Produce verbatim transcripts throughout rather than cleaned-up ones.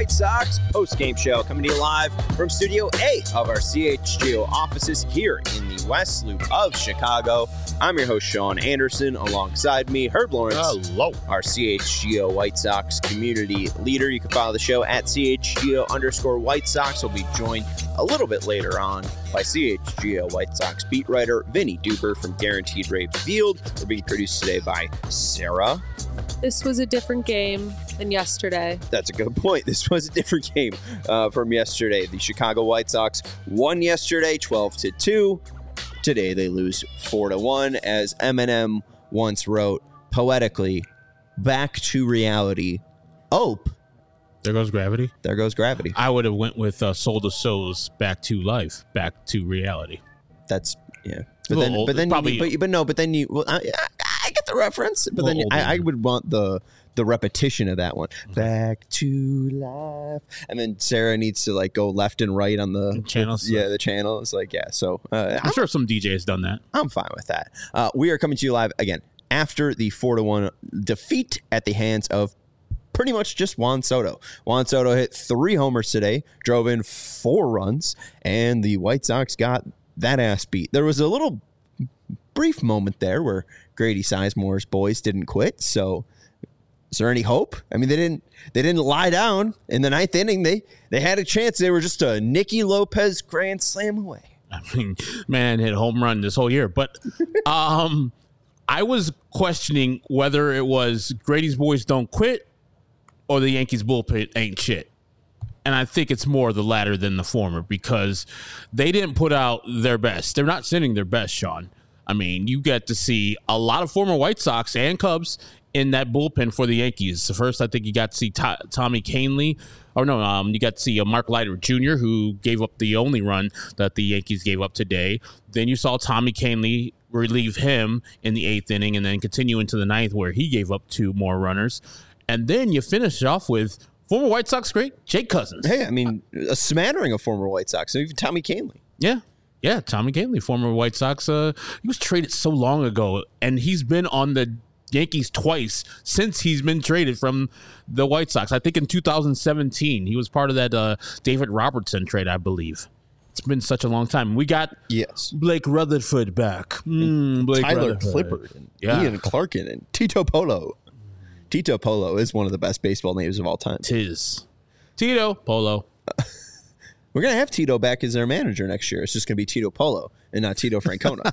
White Sox post-game show coming to you live from Studio A of our C H G O offices here in the West Loop of Chicago. I'm your host, Sean Anderson. Alongside me, Herb Lawrence. Hello. Our C H G O White Sox community leader. You can follow the show at C H G O underscore White Sox. We'll be joined a little bit later on by C H G O White Sox beat writer Vinny Duper from Guaranteed Rate Field. We're being produced today by Sarah. This was a different game than yesterday. That's a good point. This was a different game uh, from yesterday. The Chicago White Sox won yesterday twelve to two. Today they lose four to one. As Eminem once wrote poetically, back to reality. Ope. There goes gravity. There goes gravity. I would have went with uh, Soul to Soul's Back to Life, Back to Reality. That's, yeah. But A then, little but then, old, you, but, but no, but then you, well, I, I get the reference, but then old, I, I would want the the repetition of that one. Mm-hmm. Back to life, and then Sarah needs to like go left and right on the channels. Yeah, the channel is like yeah. So uh, I'm, I'm sure some D Js done that. I'm fine with that. Uh, we are coming to you live again after the four to one defeat at the hands of pretty much just Juan Soto. Juan Soto hit three homers today, drove in four runs, and the White Sox got that ass beat. There was a little brief moment there where Grady Sizemore's boys didn't quit. So is there any hope? I mean, they didn't they didn't lie down in the ninth inning. They they had a chance. They were just a Nicky Lopez grand slam away. I mean, man hit a home run this whole year. But um, I was questioning whether it was Grady's boys don't quit or the Yankees bullpen ain't shit. And I think it's more the latter than the former because they didn't put out their best. They're not sending their best, Sean. I mean, you get to see a lot of former White Sox and Cubs in that bullpen for the Yankees. First, I think you got to see T- Tommy Kahnle. Or no, um, you got to see a Mark Leiter Junior who gave up the only run that the Yankees gave up today. Then you saw Tommy Kahnle relieve him in the eighth inning and then continue into the ninth where he gave up two more runners. And then you finish off with former White Sox great Jake Cousins. Hey, I mean, a smattering of former White Sox. So even Tommy Kahnle. Yeah. Yeah, Tommy Kahnle, former White Sox. Uh, he was traded so long ago, and he's been on the Yankees twice since he's been traded from the White Sox. I think in two thousand seventeen, he was part of that uh, David Robertson trade, I believe. It's been such a long time. We got yes. Blake Rutherford back. Mm, Blake Tyler Rutherford. Clippard and yeah. Ian Clarkin and Tito Polo. Tito Polo is one of the best baseball names of all time. Tis. Tito Polo. We're going to have Tito back as their manager next year. It's just going to be Tito Polo and not Tito Francona.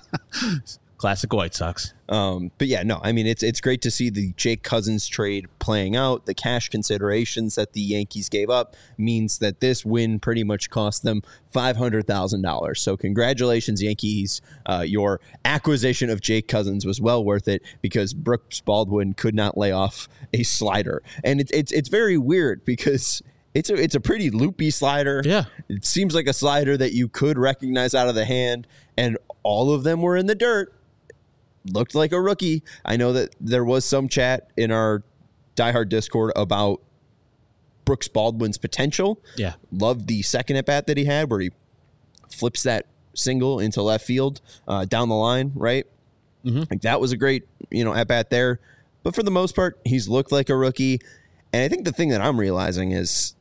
Classic White Sox. Um, but yeah, no, I mean, it's it's great to see the Jake Cousins trade playing out. The cash considerations that the Yankees gave up means that this win pretty much cost them five hundred thousand dollars. So congratulations, Yankees. Uh, your acquisition of Jake Cousins was well worth it because Brooks Baldwin could not lay off a slider. And it, it's it's very weird because it's a, it's a pretty loopy slider. Yeah. It seems like a slider that you could recognize out of the hand, and all of them were in the dirt. Looked like a rookie. I know that there was some chat in our diehard Discord about Brooks Baldwin's potential. Yeah. Loved the second at bat that he had where he flips that single into left field uh, down the line, right? Mm-hmm. Like that was a great, you know, at bat there. But for the most part, he's looked like a rookie. And I think the thing that I'm realizing is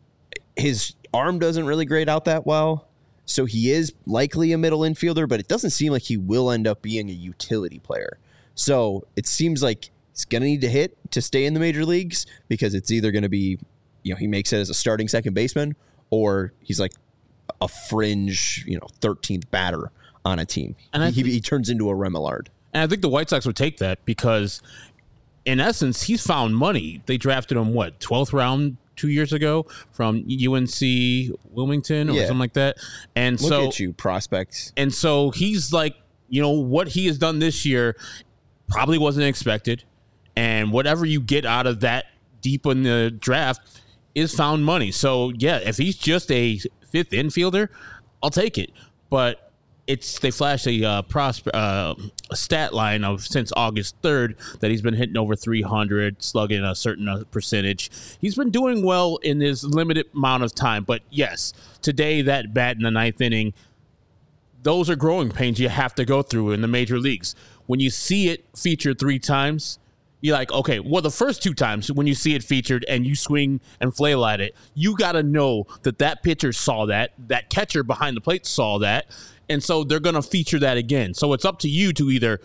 his arm doesn't really grade out that well. So he is likely a middle infielder, but it doesn't seem like he will end up being a utility player. So it seems like he's going to need to hit to stay in the major leagues because it's either going to be, you know, he makes it as a starting second baseman or he's like a fringe, you know, thirteenth batter on a team. And he, think, he, he turns into a Remillard. And I think the White Sox would take that because in essence, he's found money. They drafted him, what, twelfth round two years ago from U N C Wilmington or yeah. something like that. And Look so at you, prospects. And so he's like, you know, what he has done this year probably wasn't expected. And whatever you get out of that deep in the draft is found money. So, yeah, if he's just a fifth infielder, I'll take it. But it's they flash a uh, prospe- uh, a stat line of since August third that he's been hitting over three hundred, slugging a certain uh, percentage. He's been doing well in his limited amount of time. But, yes, today that bat in the ninth inning, those are growing pains you have to go through in the major leagues. When you see it featured three times, You're like, okay, well, the first two times when you see it featured and you swing and flail at it, you got to know that that pitcher saw that, that catcher behind the plate saw that, and so they're going to feature that again. So it's up to you to either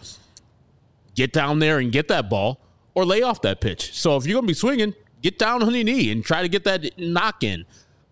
get down there and get that ball or lay off that pitch. So if you're going to be swinging, get down on your knee and try to get that knock in,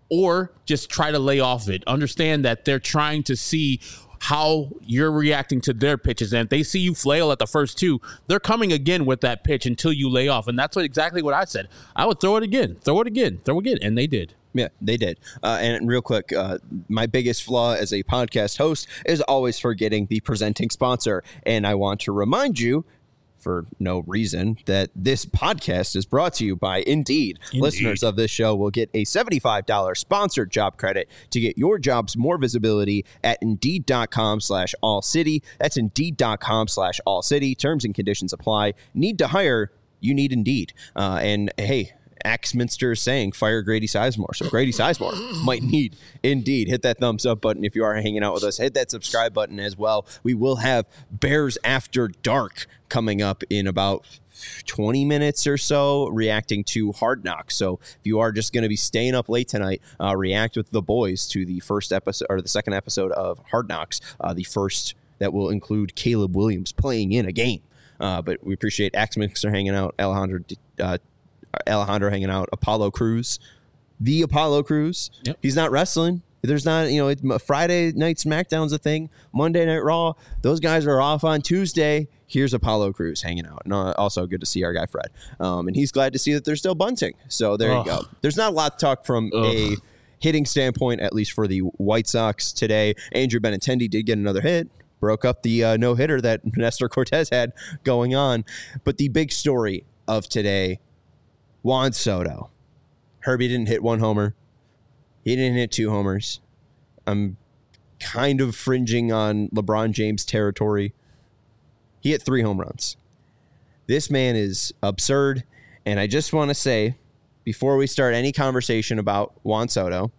or just try to lay off it. Understand that they're trying to see how you're reacting to their pitches. And if they see you flail at the first two, they're coming again with that pitch until you lay off. And that's what, exactly what I said. I would throw it again, throw it again, throw it again. And they did. Yeah, they did. Uh, and real quick, uh, my biggest flaw as a podcast host is always forgetting the presenting sponsor. And I want to remind you, for no reason, that this podcast is brought to you by Indeed. Indeed. Listeners of this show will get a seventy-five dollars sponsored job credit to get your jobs more visibility at Indeed.com slash All City. That's Indeed.com slash All City. Terms and conditions apply. Need to hire? You need Indeed. Uh, and hey, Axminster is saying fire Grady Sizemore. So Grady Sizemore might need Indeed. Hit that thumbs up button if you are hanging out with us. Hit that subscribe button as well. We will have Bears After Dark coming up in about twenty minutes or so, reacting to Hard Knocks. So if you are just going to be staying up late tonight, uh, react with the boys to the first episode or the second episode of Hard Knocks, uh, the first that will include Caleb Williams playing in a game. Uh, but we appreciate Axminster hanging out, Alejandro uh, Alejandro hanging out, Apollo Crews, the Apollo Crews. Yep. He's not wrestling. There's not, you know, it, Friday night SmackDown's a thing. Monday Night Raw, those guys are off on Tuesday. Here's Apollo Crews hanging out. And also good to see our guy Fred. Um, and he's glad to see that they're still bunting. So there Ugh. you go. There's not a lot to talk from Ugh. a hitting standpoint, at least for the White Sox today. Andrew Benintendi did get another hit. Broke up the uh, no-hitter that Nestor Cortez had going on. But the big story of today, Juan Soto. Herbie didn't hit one homer. He didn't hit two homers. I'm kind of fringing on LeBron James territory. He hit three home runs. This man is absurd. And I just want to say, before we start any conversation about Juan Soto,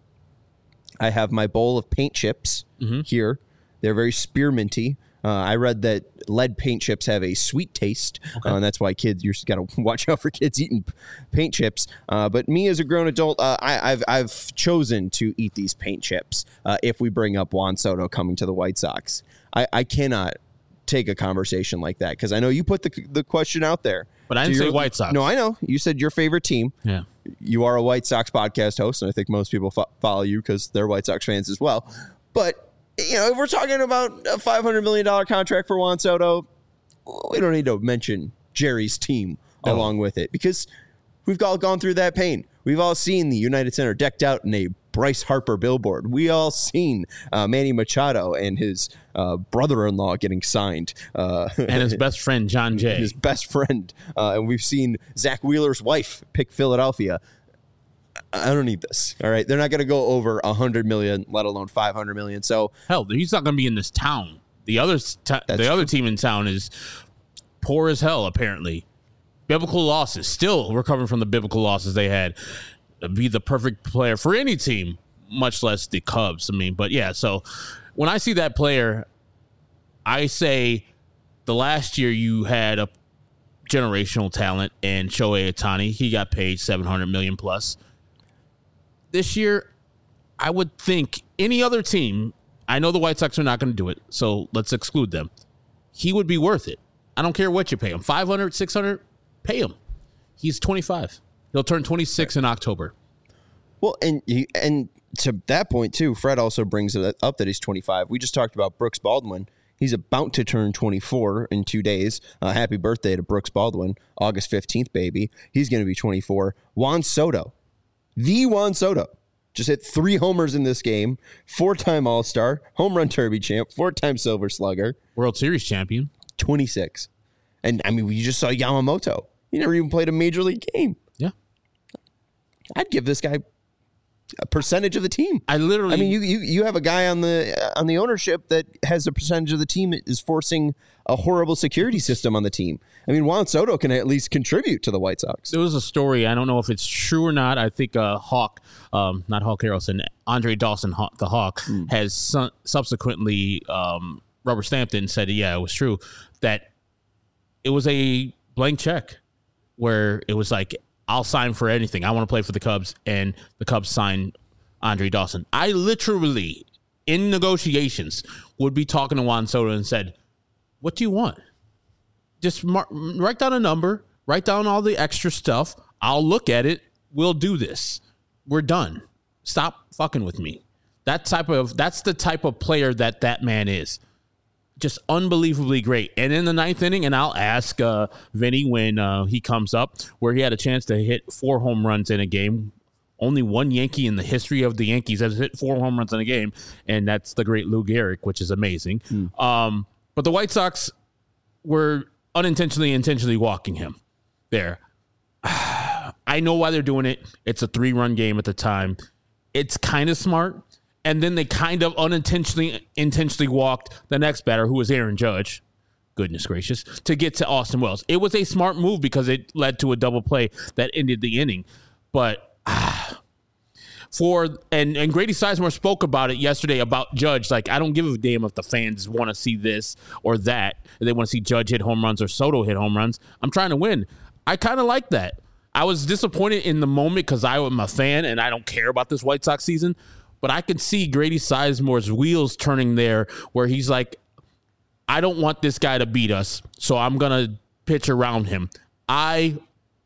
I have my bowl of paint chips mm-hmm. here. They're very spearminty. Uh, I read that lead paint chips have a sweet taste, okay. uh, and that's why kids, you've got to watch out for kids eating paint chips. Uh, but me as a grown adult, uh, I, I've I've chosen to eat these paint chips uh, if we bring up Juan Soto coming to the White Sox. I, I cannot take a conversation like that because I know you put the the question out there. But I didn't say White Sox. No, I know. You said your favorite team. Yeah. You are a White Sox podcast host, and I think most people fo- follow you because they're White Sox fans as well. But you know, if we're talking about a five hundred million dollars contract for Juan Soto, we don't need to mention Jerry's team no. along with it because we've all gone through that pain. We've all seen the United Center decked out in a Bryce Harper billboard. We all seen uh, Manny Machado and his uh, brother-in-law getting signed. Uh, and his best friend, John Jay. His best friend. Uh, and we've seen Zach Wheeler's wife pick Philadelphia. I don't need this. All right. They're not going to go over one hundred million, let alone five hundred million. So hell, he's not going to be in this town. The other t- the true. other team in town is poor as hell, apparently. Biblical losses, still recovering from the biblical losses they had. Be the perfect player for any team, much less the Cubs. I mean, but yeah, so when I see that player, I say the last year you had a generational talent and Shohei Ohtani. He got paid seven hundred million plus. This year, I would think any other team, I know the White Sox are not going to do it, so let's exclude them. He would be worth it. I don't care what you pay him. five hundred, six hundred, pay him. He's twenty-five. He'll turn twenty-six in October. Well, and he, and to that point, too, Fred also brings it up that he's twenty-five. We just talked about Brooks Baldwin. He's about to turn twenty-four in two days. Uh, happy birthday to Brooks Baldwin, August fifteenth, baby. He's going to be twenty-four. Juan Soto. The Juan Soto just hit three homers in this game, four-time All-Star, home run derby champ, four-time Silver Slugger. World Series champion. twenty-six. And, I mean, we just saw Yamamoto. He never even played a major league game. Yeah. I'd give this guy a percentage of the team. I literally... I mean, you you, you have a guy on the uh, on the ownership that has a percentage of the team that is forcing a horrible security system on the team. I mean, Juan Soto can at least contribute to the White Sox. There was a story. I don't know if it's true or not. I think uh, Hawk, um, not Hawk Harrelson, Andre Dawson, Hawk, the Hawk, mm. has su- subsequently um, rubber stamped it and said, yeah, it was true, that it was a blank check. where it was like, I'll sign for anything. I want to play for the Cubs, and the Cubs signed Andre Dawson. I literally, in negotiations, would be talking to Juan Soto and said, what do you want? Just mar- write down a number, write down all the extra stuff. I'll look at it. We'll do this. We're done. Stop fucking with me. That type of that's the type of player that that man is. Just unbelievably great. And in the ninth inning, and I'll ask uh, Vinny when uh, he comes up, where he had a chance to hit four home runs in a game. Only one Yankee in the history of the Yankees has hit four home runs in a game, and that's the great Lou Gehrig, which is amazing. Mm. Um, but the White Sox were unintentionally, intentionally walking him there. I know why they're doing it. It's a three-run game at the time. It's kind of smart. And then they kind of unintentionally intentionally walked the next batter, who was Aaron Judge. Goodness gracious. To get to Austin Wells. It was a smart move because it led to a double play that ended the inning. But ah, for and, and Grady Sizemore spoke about it yesterday about Judge. Like, I don't give a damn if the fans want to see this or that. If they want to see Judge hit home runs or Soto hit home runs. I'm trying to win. I kind of like that. I was disappointed in the moment because I am a fan and I don't care about this White Sox season. But I could see Grady Sizemore's wheels turning there where he's like, I don't want this guy to beat us, so I'm going to pitch around him. I,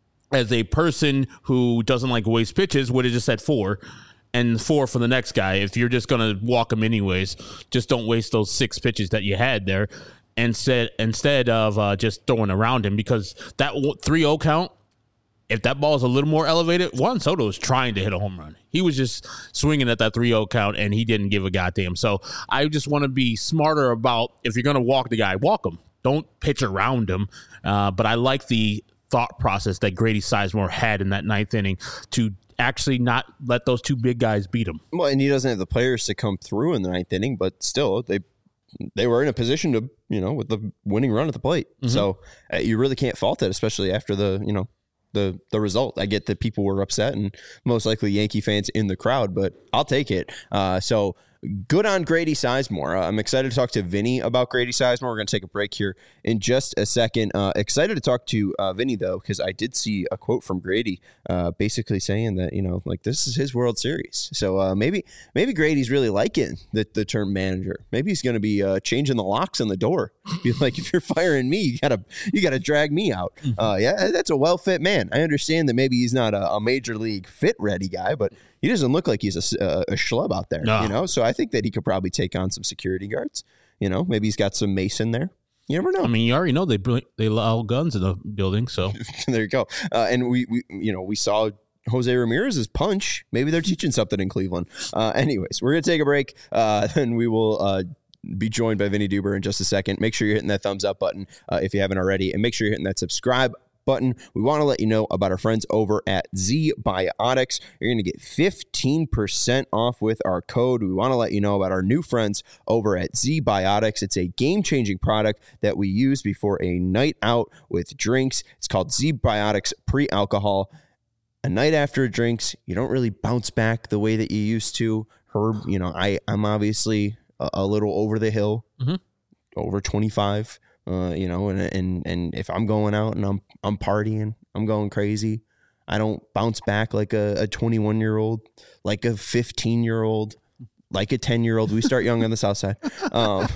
as a person who doesn't like waste pitches, would have just said four and four for the next guy. If you're just going to walk him anyways, just don't waste those six pitches that you had there instead, instead of uh, just throwing around him, because that three oh count, if that ball is a little more elevated, Juan Soto was trying to hit a home run. He was just swinging at that three oh count, and he didn't give a goddamn. So I just want to be smarter about, if you're going to walk the guy, walk him. Don't pitch around him. Uh, but I like the thought process that Grady Sizemore had in that ninth inning to actually not let those two big guys beat him. Well, and he doesn't have the players to come through in the ninth inning, but still, they they were in a position to, you know, with the winning run at the plate. Mm-hmm. So uh, you really can't fault it, especially after the, you know, the the result. I get that people were upset and most likely Yankee fans in the crowd, but I'll take it. Uh, so good on Grady Sizemore. Uh, I'm excited to talk to Vinny about Grady Sizemore. We're going to take a break here in just a second. Uh, excited to talk to uh, Vinny, though, because I did see a quote from Grady uh, basically saying that, you know, like, this is his World Series. So uh, maybe maybe Grady's really liking the, the term manager. Maybe he's going to be uh, changing the locks on the door. Be like, if you're firing me, you gotta you gotta drag me out. Uh, yeah, that's a well fit man. I understand that maybe he's not a, a major league fit ready guy, but he doesn't look like he's a, a, a schlub out there. No. You know, so I think that he could probably take on some security guards. You know, maybe he's got some Mason there. You never know. I mean, you already know they they allow guns in the building, so there you go. Uh, and we, we, you know, we saw Jose Ramirez's punch. Maybe they're teaching something in Cleveland. Uh, anyways, we're gonna take a break. Uh, then we will uh, be joined by Vinny Duber in just a second. Make sure you're hitting that thumbs up button uh, if you haven't already, and make sure you're hitting that subscribe button. We want to let you know about our friends over at ZBiotics. You're going to get fifteen percent off with our code. We want to let you know about our new friends over at ZBiotics. It's a game-changing product that we use before a night out with drinks. It's called ZBiotics Pre-Alcohol. A night after drinks, you don't really bounce back the way that you used to. Herb, you know, I, I'm obviously a, a little over the hill, mm-hmm. over twenty-five. Uh, you know, and and and if I'm going out and I'm I'm partying, I'm going crazy, I don't bounce back like a twenty-one year old, like a fifteen year old, like a ten year old. We start young on the South Side. Um,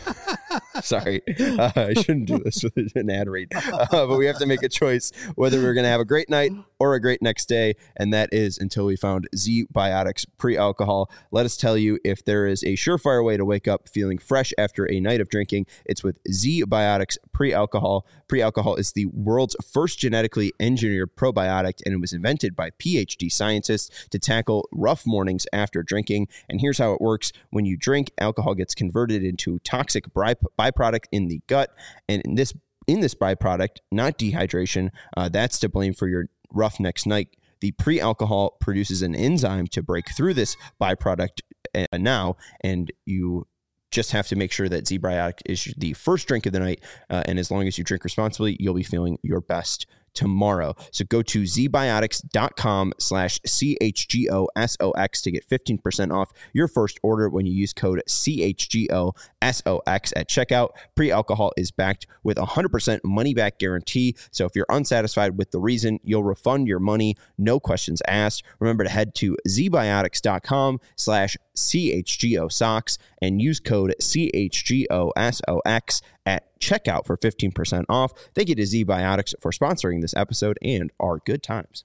sorry, uh, I shouldn't do this with an ad read, uh, but we have to make a choice whether we're going to have a great night or a great next day, and that is until we found ZBiotics Pre-Alcohol. Let us tell you, if there is a surefire way to wake up feeling fresh after a night of drinking, it's with ZBiotics Pre-Alcohol. Pre-Alcohol is the world's first genetically engineered probiotic, and it was invented by PhD scientists to tackle rough mornings after drinking. And here's how it works. When you drink, alcohol gets converted into toxic by- byproduct in the gut, and in this in this byproduct, not dehydration, uh, that's to blame for your rough next night. The pre-alcohol produces an enzyme to break through this byproduct uh, now, and you just have to make sure that ZBiotic is the first drink of the night, uh, and as long as you drink responsibly, you'll be feeling your best tomorrow. So go to zbiotics.com slash C-H-G-O-S-O-X to get fifteen percent off your first order when you use code C H G O S O X at checkout. Pre-alcohol is backed with a one hundred percent money-back guarantee. So if you're unsatisfied with the reason, you'll refund your money. No questions asked. Remember to head to zbiotics.com slash C-H-G-O-S-O-X and use code C H G O S O X at checkout for fifteen percent off. Thank you to ZBiotics for sponsoring this episode and our good times.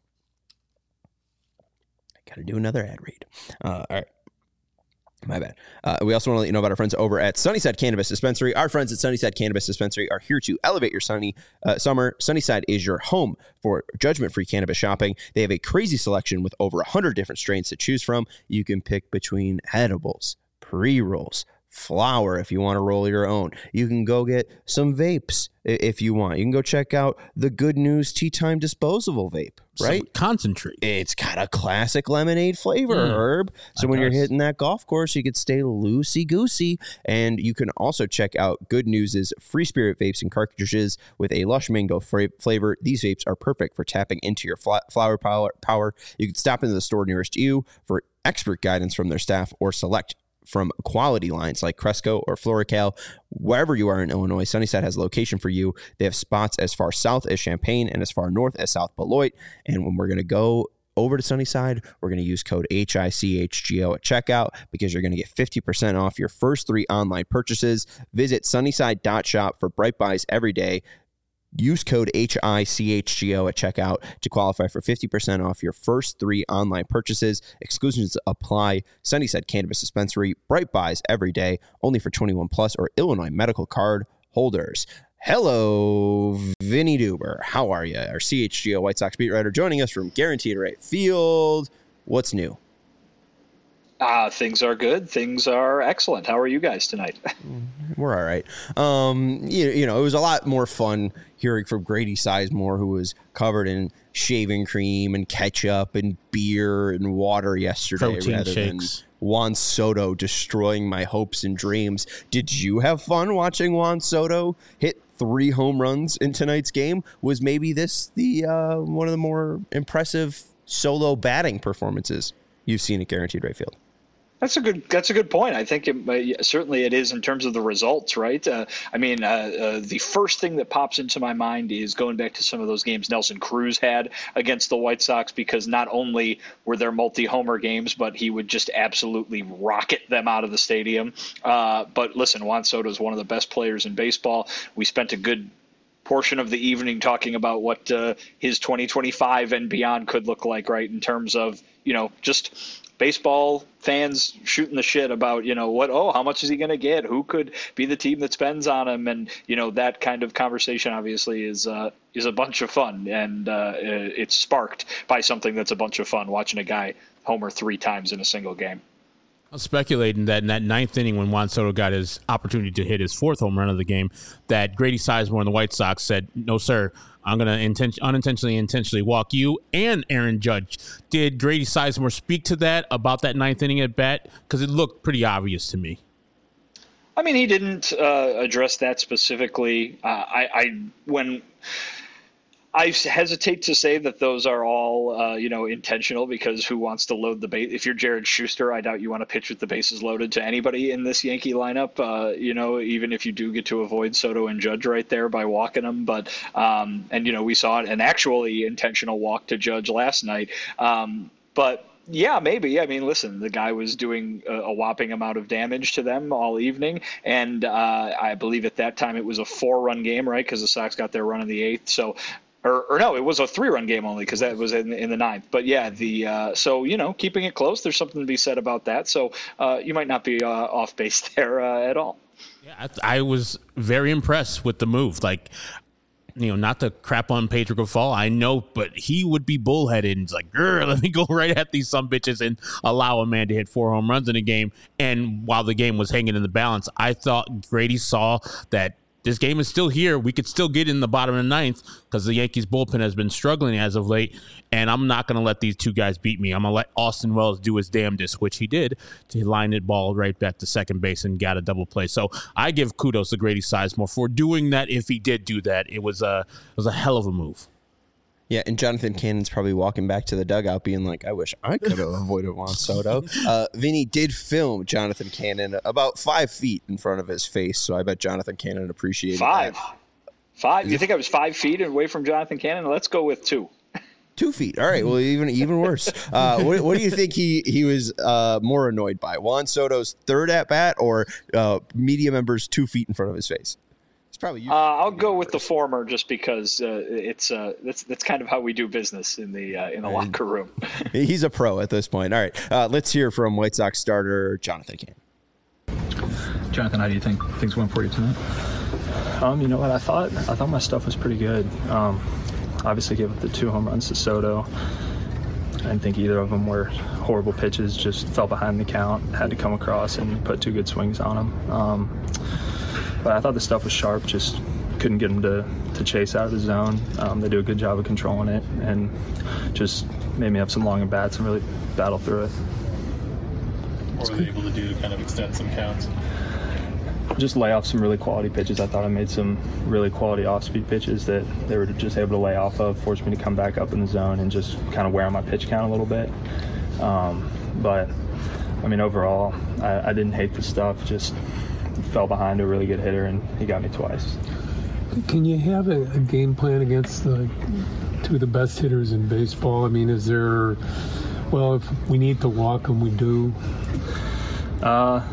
I got to do another ad read. Uh, all right. My bad. Uh, we also want to let you know about our friends over at Sunnyside Cannabis Dispensary. Our friends at Sunnyside Cannabis Dispensary are here to elevate your sunny uh, summer. Sunnyside is your home for judgment-free cannabis shopping. They have a crazy selection with over one hundred different strains to choose from. You can pick between edibles, pre-rolls, flower if you want to roll your own. You can go get some vapes if you want. You can go check out the Good News Tea Time disposable vape, right? Some concentrate. It's got a classic lemonade flavor, Mm, Herb. So it when you're does. hitting that golf course, you could stay loosey-goosey. And you can also check out Good News' Free Spirit vapes and cartridges with a lush mango fra- flavor. These vapes are perfect for tapping into your fla- flower power. power. You can stop into the store nearest you for expert guidance from their staff or select from quality lines like Cresco or Florical. Wherever you are in Illinois, Sunnyside has a location for you. They have spots as far south as Champaign and as far north as South Beloit. And when we're going to go over to Sunnyside, we're going to use code H I C H G O at checkout because you're going to get fifty percent off your first three online purchases. Visit sunnyside dot shop for Bright Buys every day. Use code H I C H G O at checkout to qualify for fifty percent off your first three online purchases. Exclusions apply. Sunnyside Cannabis Dispensary, Bright Buys every day, only for twenty-one plus or Illinois medical card holders. Hello, Vinny Duber. How are you? Our C H G O White Sox beat writer joining us from Guaranteed Rate Field. What's new? Uh, things are good. Things are excellent. How are you guys tonight? We're all right. Um, you, you know, it was a lot more fun hearing from Grady Sizemore, who was covered in shaving cream and ketchup and beer and water yesterday, Protein rather shakes. than Juan Soto destroying my hopes and dreams. Did you have fun watching Juan Soto hit three home runs in tonight's game? Was maybe this the uh, one of the more impressive solo batting performances you've seen at Guaranteed Rate Field? That's a good. That's a good point. I think it, uh, certainly it is in terms of the results, right? Uh, I mean, uh, uh, the first thing that pops into my mind is going back to some of those games Nelson Cruz had against the White Sox, because not only were there multi-homer games, but he would just absolutely rocket them out of the stadium. Uh, but listen, Juan Soto is one of the best players in baseball. We spent a good portion of the evening talking about what uh, his twenty twenty-five and beyond could look like, right, in terms of, you know, just baseball fans shooting the shit about, you know, what, oh, how much is he going to get? Who could be the team that spends on him? And, you know, that kind of conversation obviously is uh, is a bunch of fun. And uh, it's sparked by something that's a bunch of fun, watching a guy homer three times in a single game. I was speculating that in that ninth inning when Juan Soto got his opportunity to hit his fourth home run of the game, that Grady Sizemore and the White Sox said, no, sir, I'm going to inten- unintentionally intentionally walk you and Aaron Judge. Did Grady Sizemore speak to that about that ninth inning at bat? Because it looked pretty obvious to me. I mean, he didn't uh, address that specifically. Uh, I, I when I hesitate to say that those are all, uh, you know, intentional, because who wants to load the base? If you're Jared Schuster, I doubt you want to pitch with the bases loaded to anybody in this Yankee lineup, uh, you know, even if you do get to avoid Soto and Judge right there by walking them. But, um, and, you know, we saw an actually intentional walk to Judge last night. Um, but, yeah, maybe. I mean, listen, the guy was doing a, a whopping amount of damage to them all evening. And uh, I believe at that time it was a four-run game, right, because the Sox got their run in the eighth. So, Or, or no, it was a three-run game only, because that was in, in the ninth. But yeah, the uh, so you know, keeping it close, there's something to be said about that. So uh, you might not be uh, off base there uh, at all. Yeah, I, I was very impressed with the move. Like, you know, not to crap on Pedro Grifol, I know, but he would be bullheaded. It's like, grr, let me go right at these some bitches and allow a man to hit four home runs in a game. And while the game was hanging in the balance, I thought Grady saw that this game is still here. We could still get in the bottom of the ninth because the Yankees bullpen has been struggling as of late, and I'm not going to let these two guys beat me. I'm going to let Austin Wells do his damnedest, which he did, to line it ball right back to second base and got a double play. So I give kudos to Grady Sizemore for doing that. If he did do that, it was a, it was a hell of a move. Yeah, and Jonathan Cannon's probably walking back to the dugout being like, I wish I could have avoided Juan Soto. Uh, Vinny did film Jonathan Cannon about five feet in front of his face, so I bet Jonathan Cannon appreciated Five. that. Five? You think I was five feet away from Jonathan Cannon? Let's go with two. Two feet. All right. Well, even even worse. Uh, what, what do you think he he was uh, more annoyed by? Juan Soto's third at bat or uh, media members two feet in front of his face? It's probably. Uh, I'll go with the former, just because uh, it's uh, that's that's kind of how we do business in the uh, in the locker room. He's a pro at this point. All right. Uh, let's hear from White Sox starter Jonathan Cannon. Jonathan, how do you think things went for you tonight? Um, you know what? I thought I thought my stuff was pretty good. Um, obviously, gave up the two home runs to Soto. I didn't think either of them were horrible pitches. Just fell behind the count, had to come across and put two good swings on them. Um, but I thought the stuff was sharp. Just couldn't get them to, to chase out of the zone. Um, they do a good job of controlling it, and just made me have some long at bats and really battle through it. What were they able to do to kind of extend some counts? Just lay off some really quality pitches. I thought I made some really quality off-speed pitches that they were just able to lay off of, forced me to come back up in the zone and just kind of wear on my pitch count a little bit. Um, but, I mean, overall, I, I didn't hate the stuff, just fell behind a really good hitter, and he got me twice. Can you have a, a game plan against the two of the best hitters in baseball? I mean, is there, well, if we need to walk them, we do? Uh,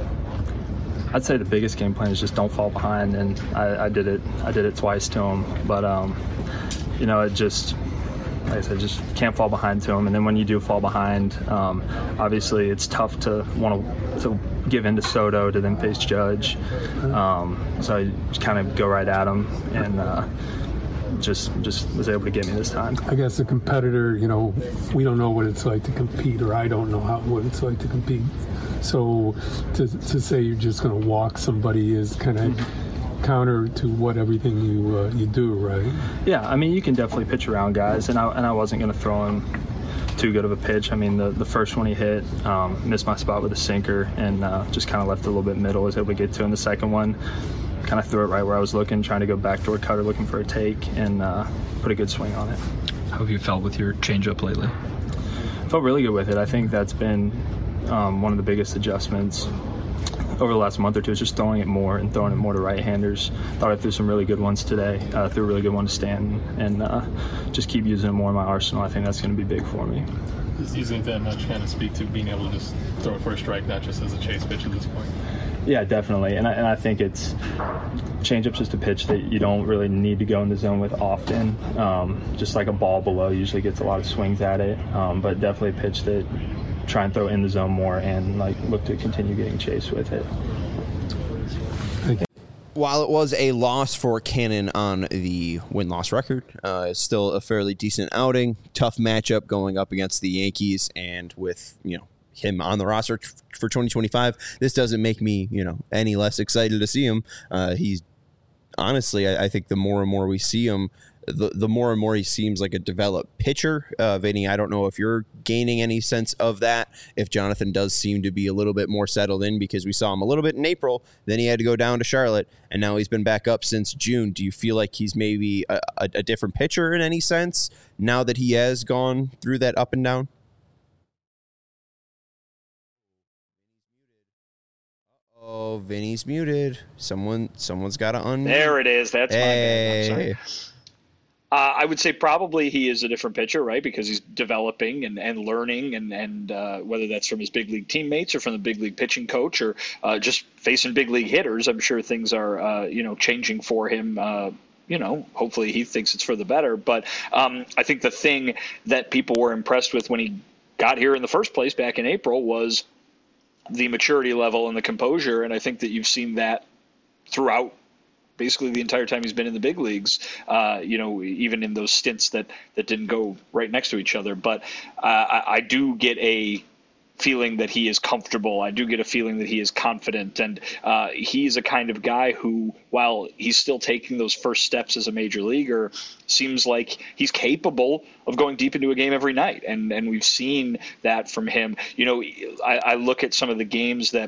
I'd say the biggest game plan is just don't fall behind, and I, I did it. I did it twice to him, but um, you know, it just, like I said, just can't fall behind to him. And then when you do fall behind, um, obviously it's tough to want to to give in to Soto to then face Judge. Um, so I just kind of go right at him, and uh, just just was able to get me this time. I guess a competitor, you know, we don't know what it's like to compete, or I don't know how what it's like to compete. So to to say you're just going to walk somebody is kind of mm-hmm. counter to what everything you uh, you do, right? Yeah, I mean, you can definitely pitch around guys, and I and I wasn't going to throw him too good of a pitch. I mean, the, the first one he hit, um, missed my spot with a sinker, and uh, just kind of left it a little bit middle. Was able to get to. And the second one, kind of threw it right where I was looking, trying to go backdoor cutter, looking for a take, and uh, put a good swing on it. How have you felt with your changeup lately? Felt really good with it. I think that's been um, one of the biggest adjustments over the last month or two, is just throwing it more and throwing it more to right-handers. Thought I threw some really good ones today. Uh, threw a really good one to Stanton, and uh, just keep using it more in my arsenal. I think that's going to be big for me. Does using it that much kind of speak to being able to just throw it for a strike, not just as a chase pitch at this point? Yeah, definitely. And I, and I think it's changeup's just a pitch that you don't really need to go in the zone with often. Um, just like a ball below usually gets a lot of swings at it, um, but definitely a pitch that try and throw in the zone more and like look to continue getting chased with it. While it was a loss for Cannon on the win-loss record, uh, it's still a fairly decent outing. Tough matchup going up against the Yankees, and with, you know, him on the roster t- for twenty twenty-five, this doesn't make me, you know, any less excited to see him. Uh, he's honestly, I, I think the more and more we see him, the the more and more he seems like a developed pitcher. Uh, Vinny, I don't know if you're gaining any sense of that, if Jonathan does seem to be a little bit more settled in, because we saw him a little bit in April, then he had to go down to Charlotte, and now he's been back up since June. Do you feel like he's maybe a, a, a different pitcher in any sense now that he has gone through that up and down? Oh, Vinny's muted. Someone, someone's got to unmute. There it is. That's hey. my bad. I'm sorry. Uh, I would say probably he is a different pitcher, right? Because he's developing and, and learning, and, and uh, whether that's from his big league teammates or from the big league pitching coach or uh, just facing big league hitters, I'm sure things are, uh, you know, changing for him. Uh, you know, hopefully he thinks it's for the better. But um, I think the thing that people were impressed with when he got here in the first place back in April was the maturity level and the composure. And I think that you've seen that throughout basically the entire time he's been in the big leagues, uh, you know, even in those stints that, that didn't go right next to each other. But uh, I, I do get a feeling that he is comfortable. I do get a feeling that he is confident. And uh, he's a kind of guy who, while he's still taking those first steps as a major leaguer, seems like he's capable of going deep into a game every night. And, and we've seen that from him. You know, I, I look at some of the games that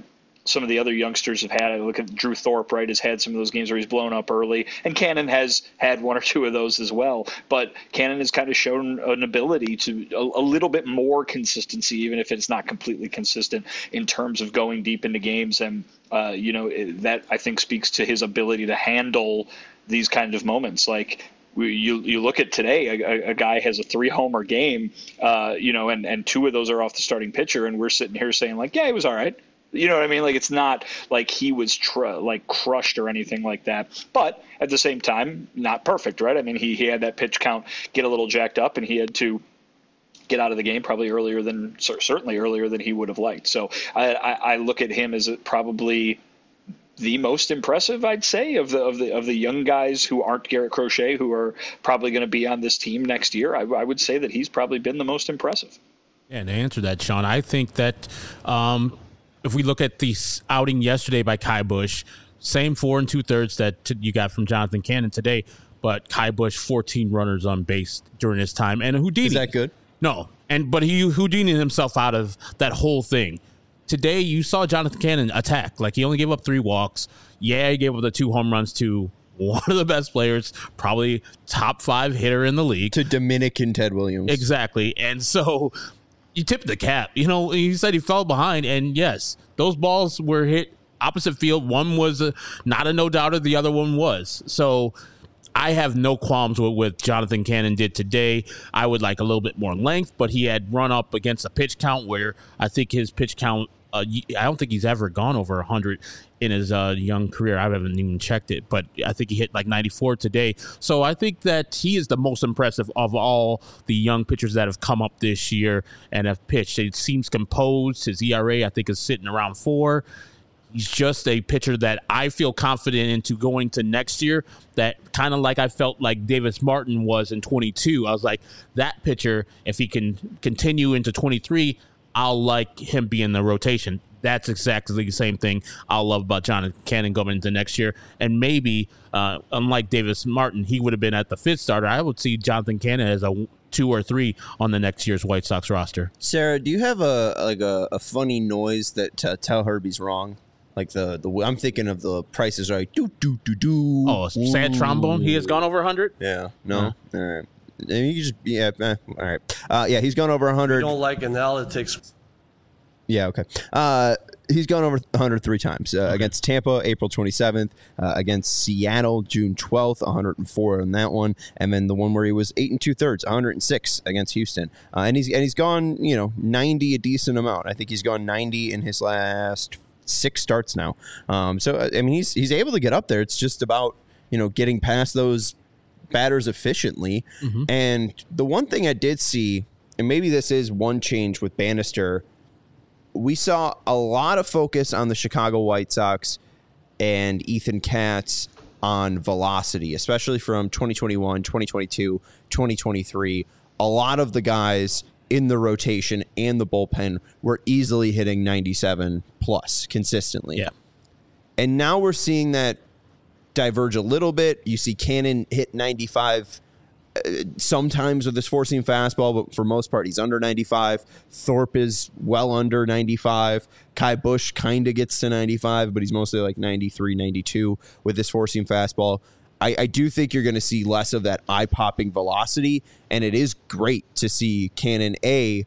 some of the other youngsters have had. I look at Drew Thorpe, right, has had some of those games where he's blown up early, and Cannon has had one or two of those as well. But Cannon has kind of shown an ability to a, a little bit more consistency, even if it's not completely consistent in terms of going deep into games. And, uh, you know, that I think speaks to his ability to handle these kind of moments. Like, You you look at today, a, a guy has a three homer game, uh, you know, and, and two of those are off the starting pitcher, and we're sitting here saying like, yeah, he was all right. You know what I mean? Like, it's not like he was tr- like crushed or anything like that. But at the same time, not perfect, right? I mean, he, he had that pitch count get a little jacked up, and he had to get out of the game probably earlier than certainly earlier than he would have liked. So I, I, I look at him as probably the most impressive, I'd say, of the of the of the young guys who aren't Garrett Crochet, who are probably going to be on this team next year. I, I would say that he's probably been the most impressive. Yeah, and to answer that, Sean, I think that um, if we look at the outing yesterday by Ky Bush, same four and two thirds that t- you got from Jonathan Cannon today, but Ky Bush fourteen runners on base during his time, and Houdini. Is that good? No, and but he Houdini himself out of that whole thing. Today, you saw Jonathan Cannon attack. Like, he only gave up three walks. Yeah, he gave up the two home runs to one of the best players, probably top five hitter in the league. To Dominican Ted Williams. Exactly. And so you tip the cap. You know, he said he fell behind. And, yes, those balls were hit opposite field. One was a, not a no-doubter. The other one was. So I have no qualms with what Jonathan Cannon did today. I would like a little bit more length, but he had run up against a pitch count where I think his pitch count, uh, I don't think he's ever gone over one hundred in his uh, young career. I haven't even checked it, but I think he hit like ninety-four today. So I think that he is the most impressive of all the young pitchers that have come up this year and have pitched. It seems composed. His E R A, I think, is sitting around four. He's just a pitcher that I feel confident into going to next year, that kind of like I felt like Davis Martin was in twenty-two. I was like, that pitcher, if he can continue into twenty-three, I'll like him being in the rotation. That's exactly the same thing I'll love about Jonathan Cannon going into next year. And maybe, uh, unlike Davis Martin, he would have been at the fifth starter. I would see Jonathan Cannon as a two or three on the next year's White Sox roster. Sarah, do you have a like a, a funny noise that to tell Herbie's wrong? Like the, the I'm thinking of the Price is Right. Do do do do. Oh, sad trombone. He has gone over one hundred. Yeah. No. No. All right. You can just yeah. Eh, all right. Uh, yeah, he's gone over one hundred. You don't like analytics. Yeah. Okay. Uh, he's gone over one hundred three times uh, okay. Against Tampa, April twenty-seventh. Uh, against Seattle, June twelfth, one hundred four on that one, and then the one where he was eight and two thirds, one hundred six against Houston. Uh, and he's and he's gone, you know, ninety a decent amount. I think he's gone ninety in his last six starts now. Um, so I mean, he's he's able to get up there. It's just about, you know, getting past those batters efficiently. Mm-hmm. And the one thing I did see, and maybe this is one change with Bannister, we saw a lot of focus on the Chicago White Sox and Ethan Katz on velocity, especially from twenty twenty-one, twenty twenty-two, twenty twenty-three. A lot of the guys in the rotation and the bullpen were easily hitting ninety-seven plus consistently. Yeah. And now we're seeing that diverge a little bit. You see Cannon hit ninety-five uh, sometimes with his four-seam fastball, but for most part, he's under ninety-five. Thorpe is well under ninety-five. Ky Bush kind of gets to ninety-five, but he's mostly like ninety-three, ninety-two with his four-seam fastball. I, I do think you're going to see less of that eye-popping velocity, and it is great to see Cannon A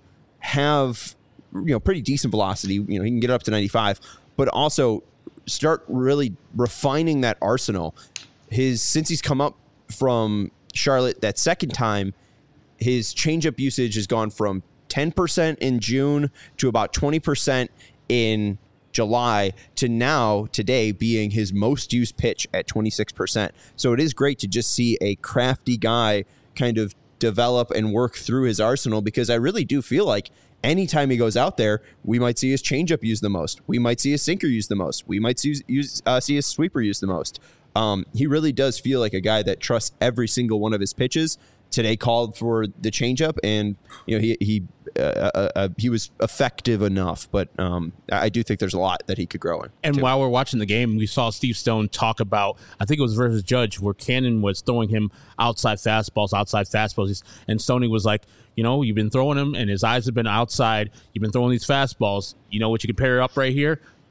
have, you know, pretty decent velocity. You know, he can get up to ninety-five, but also start really refining that arsenal. His since he's come up from Charlotte that second time, his changeup usage has gone from ten percent in June to about twenty percent in July to now today being his most used pitch at twenty-six percent. So it is great to just see a crafty guy kind of develop and work through his arsenal, because I really do feel like anytime he goes out there, we might see his changeup used the most. We might see his sinker used the most. We might see, use, uh, see his sweeper used the most. Um, he really does feel like a guy that trusts every single one of his pitches. Today called for the changeup, and you know he he uh, uh, uh, he was effective enough, but um, I do think there's a lot that he could grow in. And too. While we're watching the game, we saw Steve Stone talk about, I think it was versus Judge, where Cannon was throwing him outside fastballs, outside fastballs, and Stoney was like, you know, you've been throwing him, and his eyes have been outside. You've been throwing these fastballs. You know what you can pair up right here?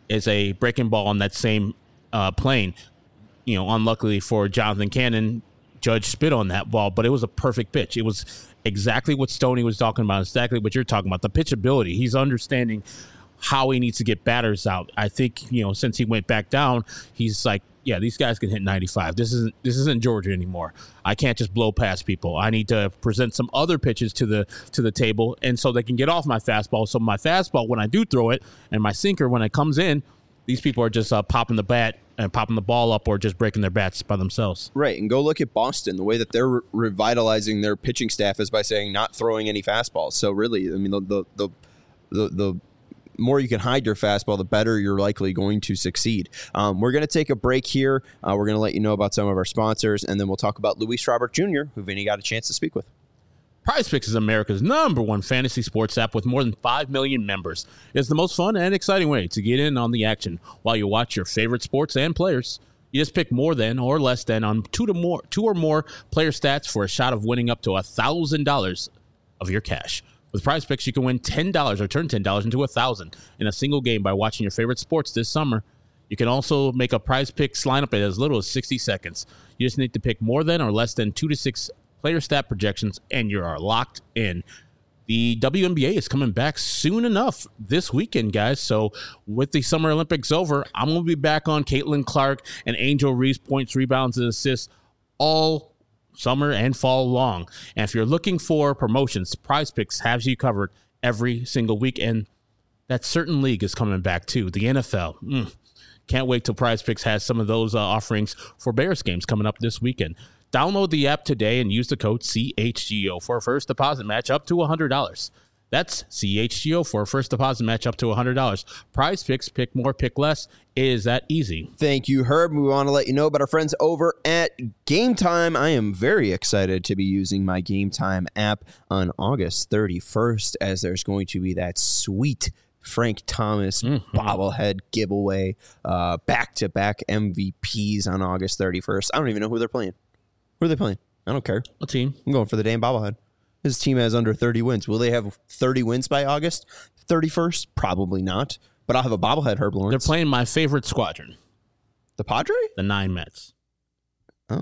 is a breaking ball on that same uh, plane. You know, unluckily for Jonathan Cannon, Judge spit on that ball, but it was a perfect pitch. It was exactly what Stoney was talking about, exactly what you're talking about, the pitchability. He's understanding how he needs to get batters out. I think, you know, since he went back down, he's like, yeah, these guys can hit ninety-five. This isn't this isn't Georgia anymore. I can't just blow past people. I need to present some other pitches to the to the table, and so they can get off my fastball. So my fastball, when I do throw it, and my sinker, when it comes in, these people are just uh, popping the bat and popping the ball up or just breaking their bats by themselves. Right, and go look at Boston. The way that they're re- revitalizing their pitching staff is by saying not throwing any fastballs. So really, I mean, the the the the, the more you can hide your fastball, the better you're likely going to succeed. Um, we're going to take a break here. Uh, we're going to let you know about some of our sponsors, and then we'll talk about Luis Robert Junior, who Vinny got a chance to speak with. PrizePicks is America's number one fantasy sports app with more than five million members. It's the most fun and exciting way to get in on the action while you watch your favorite sports and players. You just pick more than or less than on two to more, two or more player stats for a shot of winning up to one thousand dollars of your cash. With PrizePicks, you can win ten dollars or turn ten dollars into one thousand dollars in a single game by watching your favorite sports this summer. You can also make a PrizePicks lineup in as little as sixty seconds. You just need to pick more than or less than two to six player stat projections, and you are locked in. The W N B A is coming back soon enough this weekend, guys. So with the Summer Olympics over, I'm going to be back on Caitlin Clark and Angel Reese points, rebounds, and assists all summer and fall long. And if you're looking for promotions, PrizePicks has you covered every single week. And that certain league is coming back too. The N F L. Mm. Can't wait till PrizePicks has some of those uh, offerings for Bears games coming up this weekend. Download the app today and use the code C H G O for a first deposit match up to one hundred dollars. That's C H G O for a first deposit match up to one hundred dollars. PrizePicks, pick more, pick less. It is that easy. Thank you, Herb. We want to let you know about our friends over at Game Time. I am very excited to be using my Game Time app on August thirty-first, as there's going to be that sweet Frank Thomas mm-hmm. bobblehead giveaway, uh, back-to-back M V Ps on August thirty-first. I don't even know who they're playing. Who are they playing? I don't care. What team? I'm going for the damn bobblehead. His team has under thirty wins. Will they have thirty wins by August thirty-first? Probably not. But I'll have a bobblehead, Herb Lawrence. They're playing my favorite squadron. The Padre? The Nine Mets. Oh.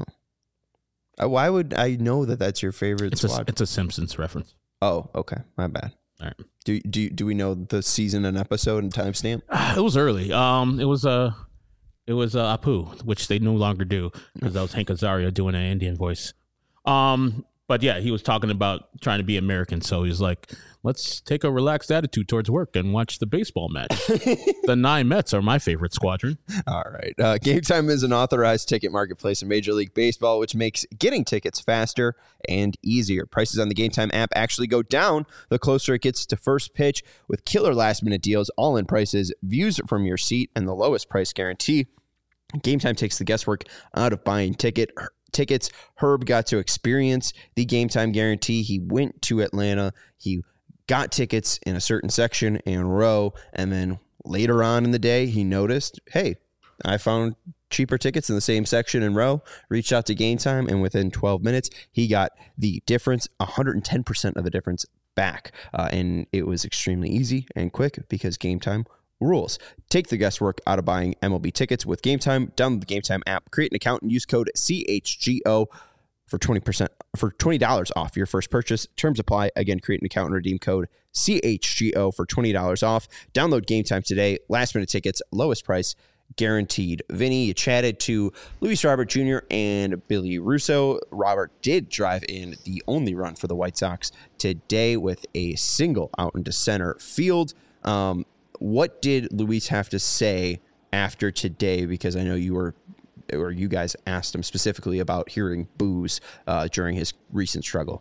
Uh, why would I know that that's your favorite it's squadron? A, it's a Simpsons reference. Oh, okay. My bad. All right. Do do do we know the season and episode and timestamp? Uh, it was early. Um, it was a. Uh, It was uh, Apu, which they no longer do because that was Hank Azaria doing an Indian voice. Um, but yeah, he was talking about trying to be American. So he's like, let's take a relaxed attitude towards work and watch the baseball match. The Nine Mets are my favorite squadron. All right. Uh, Game Time is an authorized ticket marketplace in Major League Baseball, which makes getting tickets faster and easier. Prices on the Game Time app actually go down the closer it gets to first pitch with killer last-minute deals, all-in prices, views from your seat, and the lowest price guarantee. Game Time takes the guesswork out of buying ticket tickets. Herb got to experience the Game Time guarantee. He went to Atlanta. He got tickets in a certain section and row, and then later on in the day, he noticed, hey, I found cheaper tickets in the same section and row, reached out to Game Time, and within twelve minutes, he got the difference, one hundred ten percent of the difference back. Uh, and it was extremely easy and quick because Game Time rules. Take the guesswork out of buying M L B tickets with Game Time. Download the Game Time app, create an account, and use code C H G O for twenty percent for twenty dollars off your first purchase. Terms apply. Again, create an account and redeem code C H G O for twenty dollars off. Download Game Time today. Last minute tickets, lowest price guaranteed. Vinny, you chatted to Luis Robert Junior and Billy Russo. Robert did drive in the only run for the White Sox today with a single out into center field. Um, What did Luis have to say after today? Because I know you were, or you guys asked him specifically about hearing boos uh, during his recent struggle.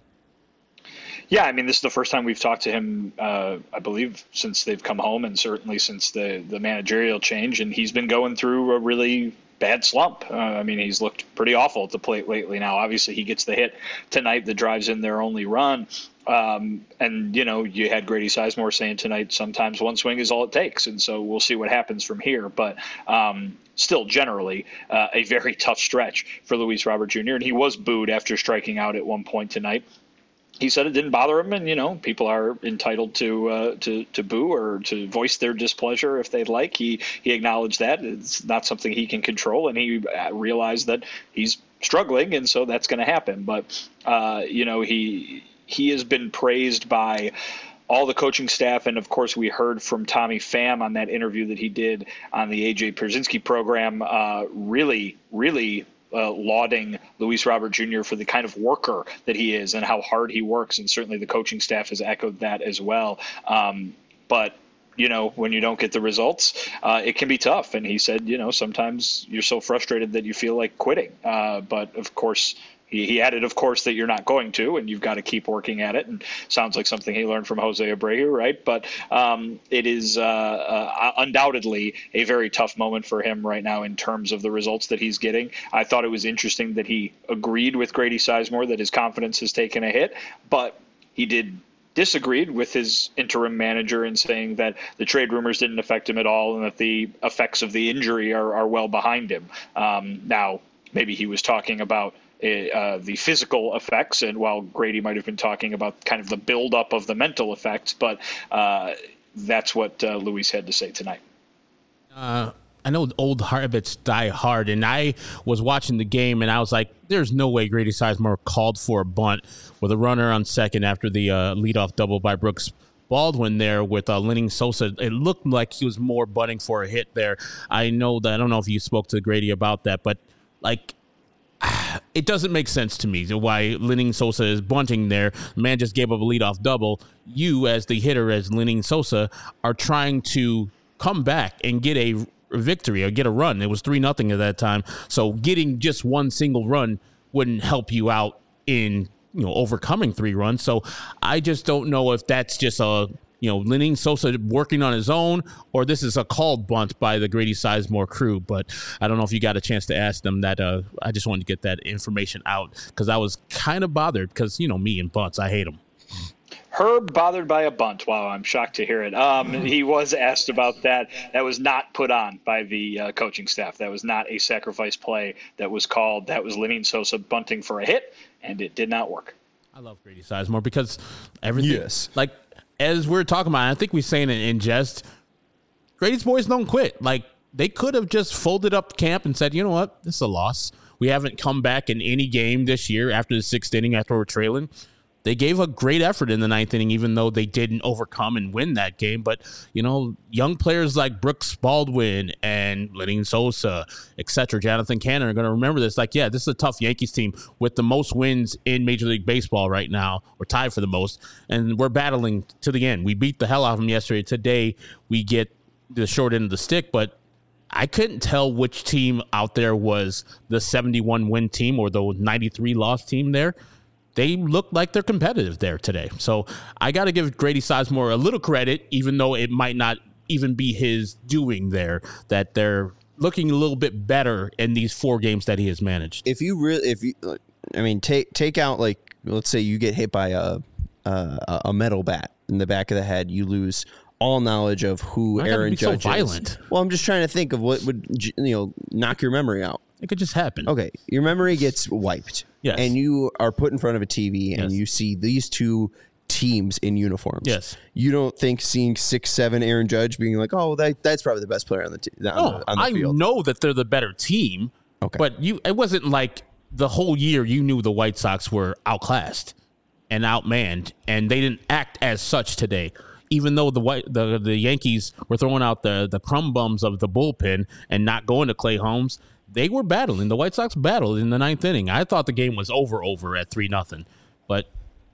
Yeah, I mean, this is the first time we've talked to him, uh, I believe, since they've come home, and certainly since the, the managerial change. And he's been going through a really bad slump. Uh, I mean, he's looked pretty awful at the plate lately now. Obviously, he gets the hit tonight that drives in their only run. Um, and, you know, you had Grady Sizemore saying tonight, sometimes one swing is all it takes. And so we'll see what happens from here. But um, still, generally, uh, a very tough stretch for Luis Robert Junior And he was booed after striking out at one point tonight. he said it didn't bother him, and you know, people are entitled to uh, to to boo or to voice their displeasure if they'd like. He he acknowledged that it's not something he can control, and he realized that he's struggling, and so that's going to happen. But uh, you know, he he has been praised by all the coaching staff, and of course, we heard from Tommy Pham on that interview that he did on the A J Pierzynski program. Uh, really, really. Uh, lauding Luis Robert Junior for the kind of worker that he is and how hard he works. And certainly the coaching staff has echoed that as well. Um, but, you know, when you don't get the results, uh, it can be tough. And he said, you know, sometimes you're so frustrated that you feel like quitting. Uh, but, of course, He, he added, of course, that you're not going to, and you've got to keep working at it. And sounds like something he learned from Jose Abreu, right? But um, it is uh, uh, undoubtedly a very tough moment for him right now in terms of the results that he's getting. I thought it was interesting that he agreed with Grady Sizemore that his confidence has taken a hit, but he did disagreed with his interim manager in saying that the trade rumors didn't affect him at all and that the effects of the injury are, are well behind him. Um, now, maybe he was talking about Uh, the physical effects, and while Grady might have been talking about kind of the buildup of the mental effects, but uh, that's what uh, Luis had to say tonight. Uh, I know old habits die hard, and I was watching the game, and I was like, there's no way Grady Sizemore called for a bunt with a runner on second after the uh, leadoff double by Brooks Baldwin there with uh, Lenyn Sosa. It looked like he was more bunting for a hit there. I know that, I don't know if you spoke to Grady about that, but like, it doesn't make sense to me why Lenyn Sosa is bunting there. The man just gave up a leadoff double. You, as the hitter, as Lenyn Sosa, are trying to come back and get a victory or get a run. It was three nothing at that time. So getting just one single run wouldn't help you out in, you know, overcoming three runs. So I just don't know if that's just a, you know, Lenyn Sosa working on his own, or this is a called bunt by the Grady Sizemore crew. But I don't know if you got a chance to ask them that. Uh, I just wanted to get that information out because I was kind of bothered because, you know, me and bunts, I hate them. Herb bothered by a bunt. Wow, I'm shocked to hear it. Um, he was asked about that. That was not put on by the uh, coaching staff. That was not a sacrifice play that was called. That was Lenyn Sosa bunting for a hit, and it did not work. I love Grady Sizemore because everything, yes. like, as we're talking about, I think we're saying it in jest, Grady's boys don't quit. Like, they could have just folded up camp and said, you know what, this is a loss. We haven't come back in any game this year after the sixth inning, after we're trailing. They gave a great effort in the ninth inning, even though they didn't overcome and win that game. But, you know, young players like Brooks Baldwin and Lenyn Sosa, et cetera, Jonathan Cannon are going to remember this. Like, yeah, this is a tough Yankees team with the most wins in Major League Baseball right now. We're tied for the most, and we're battling to the end. We beat the hell out of them yesterday. Today, we get the short end of the stick, but I couldn't tell which team out there was the seventy-one win team or the ninety-three loss team there. They look like they're competitive there today. So I got to give Grady Sizemore a little credit, even though it might not even be his doing there, that they're looking a little bit better in these four games that he has managed. If you really, if you, I mean, take take out, like, let's say you get hit by a a, a metal bat in the back of the head, you lose all knowledge of who Why Aaron be Judge so violent? is. Well, I'm just trying to think of what would, you know, knock your memory out. It could just happen. Okay, your memory gets wiped. Yes. And you are put in front of a T V and Yes. you see these two teams in uniforms. Yes. You don't think seeing six seven Aaron Judge being like, oh, that that's probably the best player on the t- on, Oh, the, on the I field. know that they're the better team. Okay. But you, it wasn't like the whole year you knew the White Sox were outclassed and outmanned, and they didn't act as such today. Even though the white the the Yankees were throwing out the the crumb bums of the bullpen and not going to Clay Holmes, they were battling. The White Sox battled in the ninth inning. I thought the game was over over at three nothing, but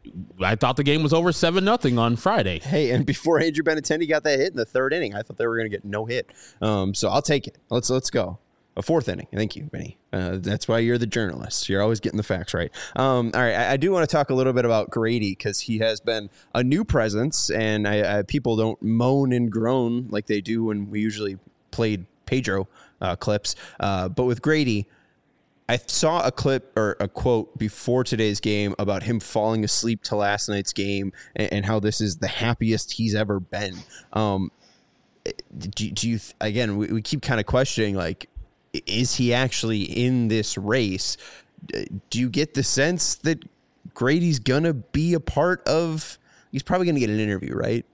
I thought the game was over seven nothing on Friday. Hey, and before Andrew Benintendi got that hit in the third inning, I thought they were going to get no hit. Um, so I'll take it. Let's let's go. A fourth inning. Thank you, Benny. Uh, that's why you're the journalist. You're always getting the facts right. Um, all right, I, I do want to talk a little bit about Grady because he has been a new presence, and I, I, people don't moan and groan like they do when we usually played Pedro uh, clips. Uh, but with Grady, I saw a clip or a quote before today's game about him falling asleep to last night's game and, and how this is the happiest he's ever been. Um, do, do you, again, we, we keep kind of questioning, like, is he actually in this race? Do you get the sense that Grady's going to be a part of, he's probably going to get an interview, right?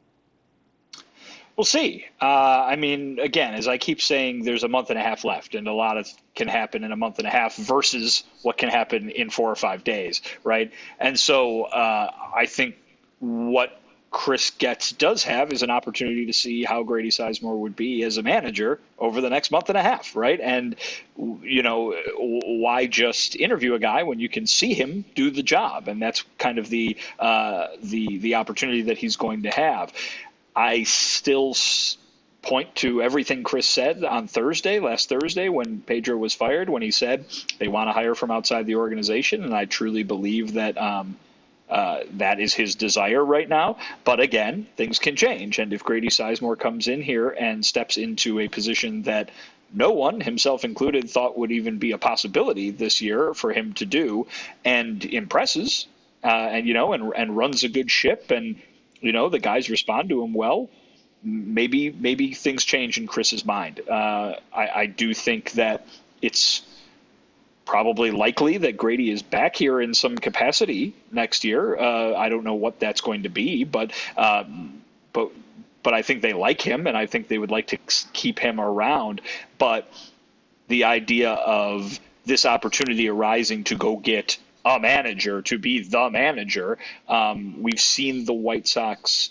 We'll see. Uh, I mean, again, as I keep saying, there's a month and a half left, and a lot of can happen in a month and a half versus what can happen in four or five days, right? And so uh, I think what Chris Getz does have is an opportunity to see how Grady Sizemore would be as a manager over the next month and a half, right? And, you know, why just interview a guy when you can see him do the job? And that's kind of the uh, the the opportunity that he's going to have. I still point to everything Chris said on Thursday, last Thursday, when Pedro was fired, when he said they want to hire from outside the organization. And I truly believe that um, uh, that is his desire right now. But again, things can change. And if Grady Sizemore comes in here and steps into a position that no one, himself included, thought would even be a possibility this year for him to do, and impresses, uh, and, you know, and, and runs a good ship, and, you know, the guys respond to him well, maybe maybe things change in Chris's mind. Uh, I, I do think that it's probably likely that Grady is back here in some capacity next year. Uh, I don't know what that's going to be, but um, but but I think they like him, and I think they would like to keep him around. But the idea of this opportunity arising to go get a manager, to be the manager, um, we've seen the White Sox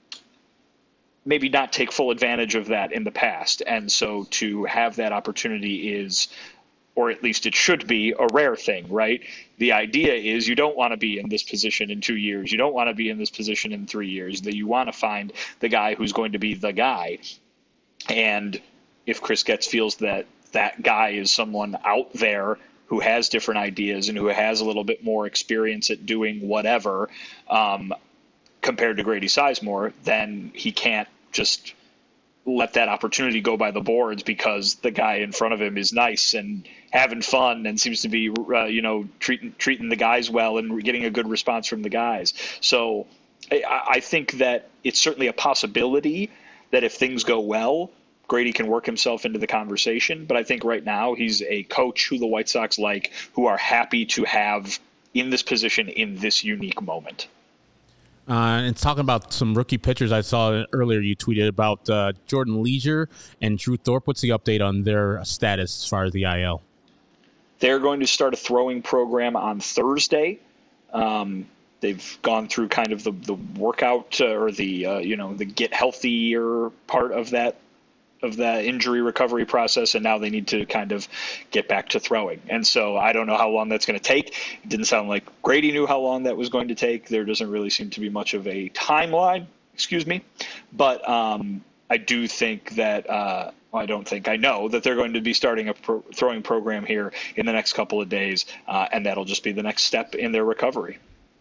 maybe not take full advantage of that in the past. And so to have that opportunity is, or at least it should be, a rare thing, right? The idea is you don't want to be in this position in two years. You don't want to be in this position in three years. That you want to find the guy who's going to be the guy. And if Chris Getz feels that that guy is someone out there who has different ideas and who has a little bit more experience at doing whatever, um, compared to Grady Sizemore, then he can't just let that opportunity go by the boards because the guy in front of him is nice and having fun and seems to be, uh, you know, treating treating the guys well and getting a good response from the guys. So I, I think that it's certainly a possibility that if things go well, Grady can work himself into the conversation. But I think right now he's a coach who the White Sox like, who are happy to have in this position in this unique moment. Uh, and talking about some rookie pitchers, I saw earlier you tweeted about uh, Jordan Leisure and Drew Thorpe. What's the update on their status as far as the I L? They're going to start a throwing program on Thursday. Um, they've gone through kind of the, the workout uh, or the, uh, you know, the get healthier part of that of the injury recovery process, and now they need to kind of get back to throwing. And so I don't know how long that's going to take. It didn't sound like Grady knew how long that was going to take. There doesn't really seem to be much of a timeline, excuse me. But um, I do think that, uh, well, I don't think, I know that they're going to be starting a pro- throwing program here in the next couple of days, uh, and that'll just be the next step in their recovery.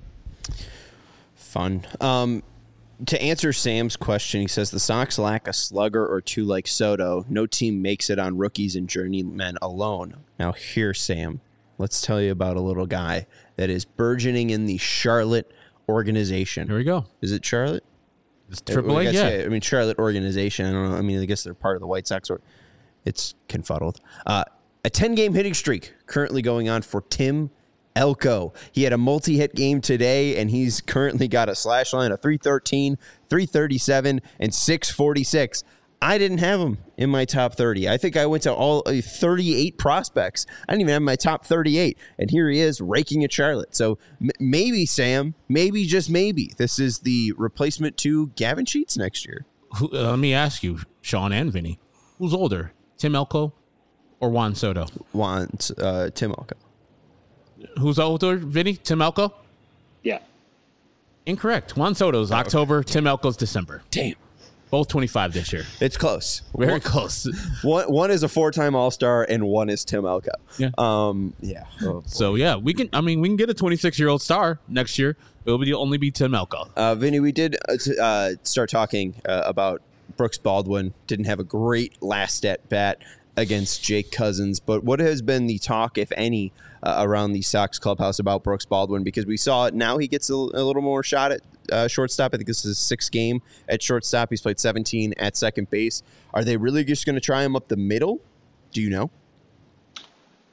Fun. Um, To answer Sam's question, he says the Sox lack a slugger or two like Soto. No team makes it on rookies and journeymen alone. Now here, Sam, let's tell you about a little guy that is burgeoning in the Charlotte organization. Here we go. Is it Charlotte? It's Triple A, I guess, yeah. yeah. I mean, Charlotte organization. I don't know. I mean, I guess they're part of the White Sox. Or it's confuddled. Uh, a ten-game hitting streak currently going on for Tim Elko. He had a multi-hit game today, and he's currently got a slash line of three thirteen, three thirty-seven, and six forty-six. I didn't have him in my top thirty. I think I went to all uh, thirty-eight prospects. I didn't even have my top thirty-eight, and here he is raking at Charlotte. So m- maybe, Sam, maybe, just maybe, this is the replacement to Gavin Sheets next year. Who, uh, let me ask you, Sean and Vinny, who's older, Tim Elko or Juan Soto? Juan, uh, Tim Elko. Who's older, Vinny? Tim Elko? Yeah. Incorrect. Juan Soto's October, Tim Elko's December. Damn. Both twenty-five this year. It's close. Very one, close. One one is a four-time All-Star, and one is Tim Elko. Yeah. Um. Yeah. Oh, so yeah, we can. I mean, we can get a twenty-six-year-old star next year. It'll be only be Tim Elko. Uh, Vinny, we did uh, t- uh, start talking uh, about Brooks Baldwin. Didn't have a great last at bat against Jake Cousins, but what has been the talk, if any, uh, around the Sox clubhouse about Brooks Baldwin? Because we saw it now, he gets a, a little more shot at uh, shortstop. I think this is his sixth game at shortstop. He's played seventeen at second base. Are they really just going to try him up the middle? Do you know?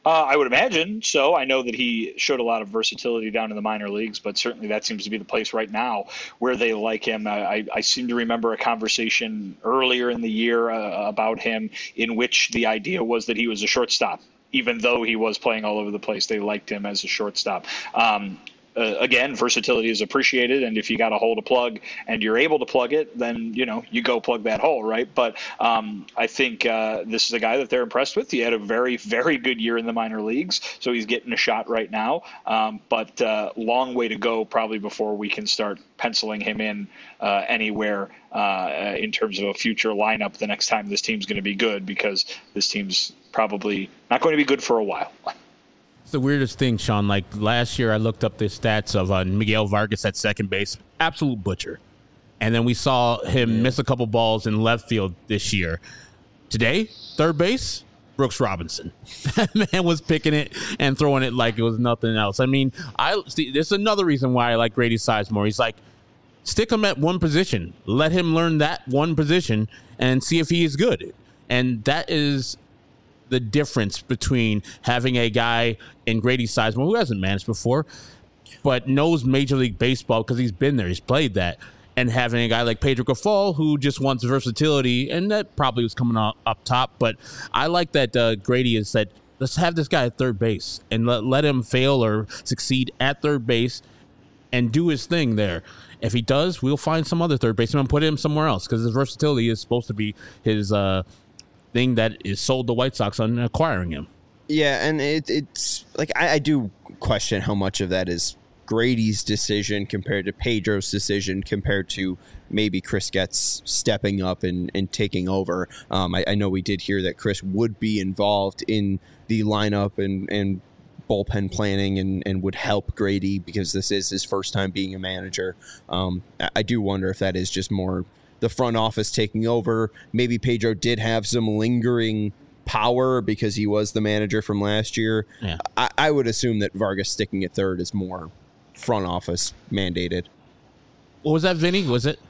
Uh, I would imagine so. I know that he showed a lot of versatility down in the minor leagues, but certainly that seems to be the place right now where they like him. I, I seem to remember a conversation earlier in the year uh, about him in which the idea was that he was a shortstop. Even though he was playing all over the place, they liked him as a shortstop. Um, Uh, again, versatility is appreciated, and if you got a hole to plug and you're able to plug it, then you know you go plug that hole, right? But um, I think uh, this is a guy that they're impressed with. He had a very, very good year in the minor leagues, so he's getting a shot right now. Um, but uh, long way to go, probably before we can start penciling him in uh, anywhere uh, in terms of a future lineup the next time this team's going to be good, because this team's probably not going to be good for a while. It's the weirdest thing, Sean. Like last year, I looked up the stats of uh, Miguel Vargas at second base, absolute butcher. And then we saw him yeah. miss a couple balls in left field this year. Today, third base, Brooks Robinson. That man was picking it and throwing it like it was nothing else. I mean, I see. There's another reason why I like Grady Sizemore. He's like, stick him at one position, let him learn that one position, and see if he is good. And that is the difference between having a guy in Grady Sizemore who hasn't managed before, but knows Major League Baseball because he's been there, he's played that, and having a guy like Pedro Grifol who just wants versatility, and that probably was coming up, up top. But I like that uh, Grady has said, let's have this guy at third base and let, let him fail or succeed at third base and do his thing there. If he does, we'll find some other third baseman and put him somewhere else, because his versatility is supposed to be his uh, thing that is sold the White Sox on acquiring him. Yeah, and it, it's like I, I do question how much of that is Grady's decision compared to Pedro's decision compared to maybe Chris Getz stepping up and, and taking over. Um, I, I know we did hear that Chris would be involved in the lineup and, and bullpen planning and, and would help Grady because this is his first time being a manager. Um, I, I do wonder if that is just more the front office taking over. Maybe Pedro did have some lingering power because he was the manager from last year. Yeah. I, I would assume that Vargas sticking at third is more front office mandated. What was that, Vinny? Was it?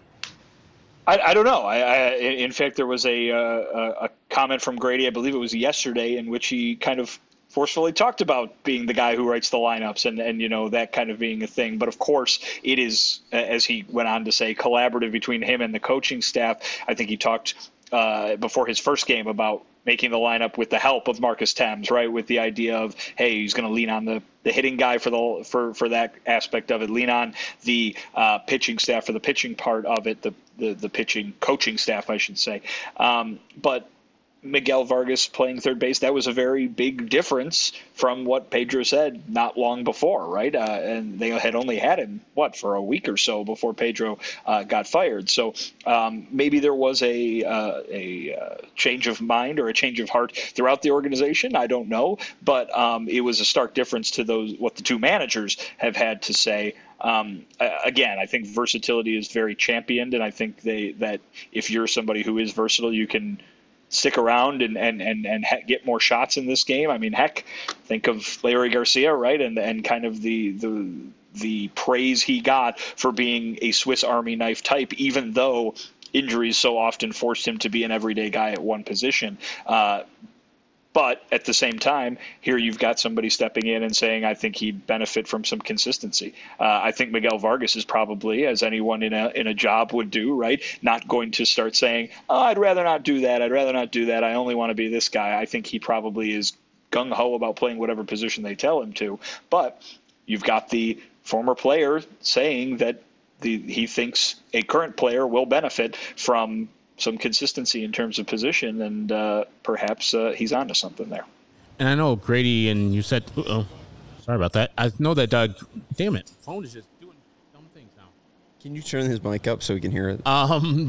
I, I don't know. I, I, in fact, there was a, uh, a comment from Grady, I believe it was yesterday, in which he kind of forcefully talked about being the guy who writes the lineups and, and, you know, that kind of being a thing. But of course, it is, as he went on to say, collaborative between him and the coaching staff. I think he talked uh, before his first game about making the lineup with the help of Marcus Thames, right? With the idea of, hey, he's going to lean on the, the hitting guy for the for, for that aspect of it, lean on the uh, pitching staff for the pitching part of it, the the, the pitching coaching staff, I should say. Um, but Miguel Vargas playing third base, that was a very big difference from what Pedro said not long before, right? Uh, and they had only had him, what, for a week or so before Pedro uh, got fired. So um, maybe there was a, uh, a uh, change of mind or a change of heart throughout the organization. I don't know. But um, it was a stark difference to those what the two managers have had to say. Um, again, I think versatility is very championed, and I think they that if you're somebody who is versatile, you can stick around and and and and get more shots in this game. I mean, heck, think of Larry Garcia, right? And and kind of the the the praise he got for being a Swiss Army knife type, even though injuries so often forced him to be an everyday guy at one position. Uh, But at the same time, here you've got somebody stepping in and saying, I think he'd benefit from some consistency. Uh, I think Miguel Vargas is probably, as anyone in a in a job would do, right, not going to start saying, oh, I'd rather not do that. I'd rather not do that. I only want to be this guy. I think he probably is gung-ho about playing whatever position they tell him to. But you've got the former player saying that the he thinks a current player will benefit from some consistency in terms of position, and uh, perhaps uh, he's onto something there. And I know Grady, and you said, oh, sorry about that. I know that, uh, damn it, phone is just doing dumb things now. Can you turn his mic up so we can hear it? Um,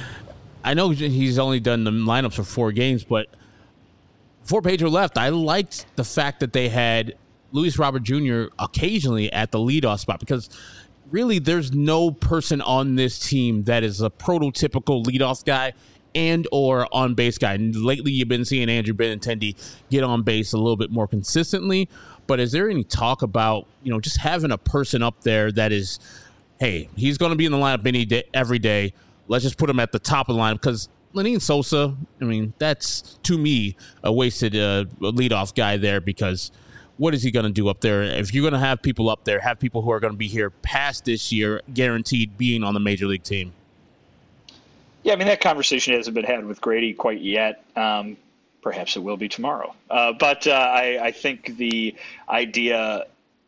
I know he's only done the lineups for four games, but before Pedro left, I liked the fact that they had Luis Robert Junior occasionally at the leadoff spot, because really, there's no person on this team that is a prototypical leadoff guy and or on base guy. And lately, you've been seeing Andrew Benintendi get on base a little bit more consistently. But is there any talk about, you know, just having a person up there that is, hey, he's going to be in the lineup any day, every day. Let's just put him at the top of the lineup, because Lenyn Sosa, I mean, that's, to me, a wasted uh, leadoff guy there because what is he going to do up there? If you're going to have people up there, have people who are going to be here past this year, guaranteed being on the major league team. Yeah, I mean, that conversation hasn't been had with Grady quite yet. Um, perhaps it will be tomorrow. Uh, but uh, I, I think the idea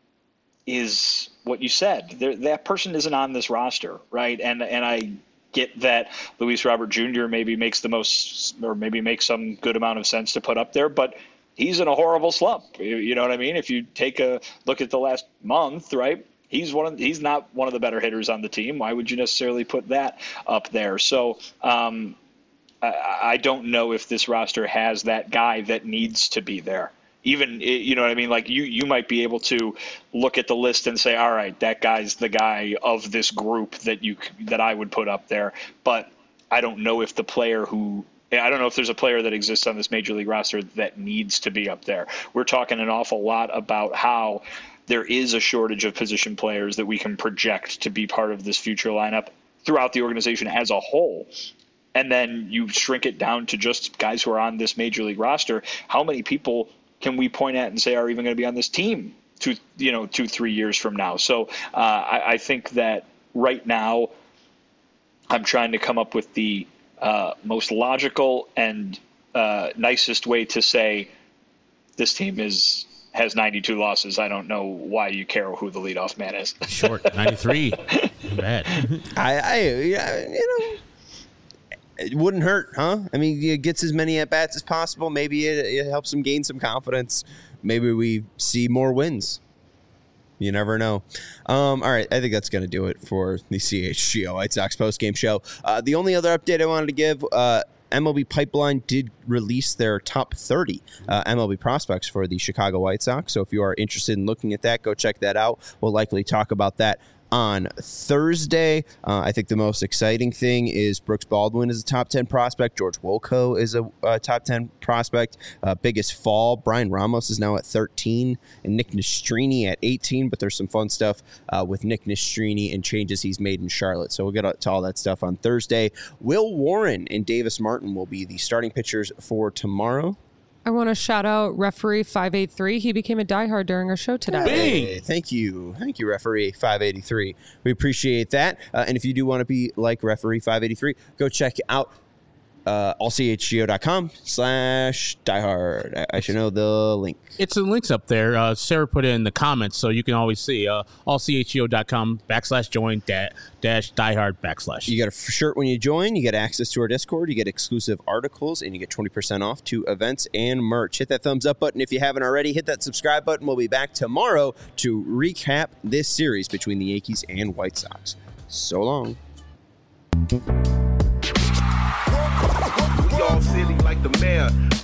is what you said. There, that person isn't on this roster, right? And and I get that Luis Robert Junior maybe makes the most, or maybe makes some good amount of sense to put up there, but he's in a horrible slump. You, you know what I mean? If you take a look at the last month, right? He's one of, he's not one of the better hitters on the team. Why would you necessarily put that up there? So um, I, I don't know if this roster has that guy that needs to be there. Even, you know what I mean? Like you, you might be able to look at the list and say, all right, that guy's the guy of this group that you, that I would put up there. But I don't know if the player who, I don't know if there's a player that exists on this major league roster that needs to be up there. We're talking an awful lot about how there is a shortage of position players that we can project to be part of this future lineup throughout the organization as a whole. And then you shrink it down to just guys who are on this major league roster. How many people can we point at and say are even going to be on this team two, you know, two, three years from now? So uh, I, I think that right now I'm trying to come up with the uh, most logical and uh, nicest way to say this team is has ninety-two losses. I don't know why you care who the leadoff man is. Short ninety-three. Bad. I, I, yeah, you know. It wouldn't hurt, huh? I mean, he gets as many at-bats as possible. Maybe it, it helps him gain some confidence. Maybe we see more wins. You never know. Um, all right, I think that's going to do it for the C H G O White Sox postgame show. Uh, the only other update I wanted to give, uh, M L B Pipeline did release their top thirty uh, M L B prospects for the Chicago White Sox. So if you are interested in looking at that, go check that out. We'll likely talk about that on Thursday. Uh, I think the most exciting thing is Brooks Baldwin is a top ten prospect. George Wolko is a, a top ten prospect. Uh, biggest fall, Brian Ramos is now at thirteen and Nick Nastrini at eighteen, but there's some fun stuff uh, with Nick Nastrini and changes he's made in Charlotte. So we'll get to all that stuff on Thursday. Will Warren and Davis Martin will be the starting pitchers for tomorrow. I want to shout out referee five eighty-three. He became a diehard during our show today. Hey, thank you. Thank you, referee five eighty-three. We appreciate that. Uh, and if you do want to be like referee five eighty-three, go check out uh, all c h g o dot com slash diehard. I, I should know the link. It's the links up there. Uh, Sarah put it in the comments, so you can always see uh, all c h g o dot com backslash join da- dash diehard backslash. You get a shirt when you join. You get access to our Discord. You get exclusive articles, and you get twenty percent off to events and merch. Hit that thumbs up button if you haven't already. Hit that subscribe button. We'll be back tomorrow to recap this series between the Yankees and White Sox. So long. We all silly like the mayor.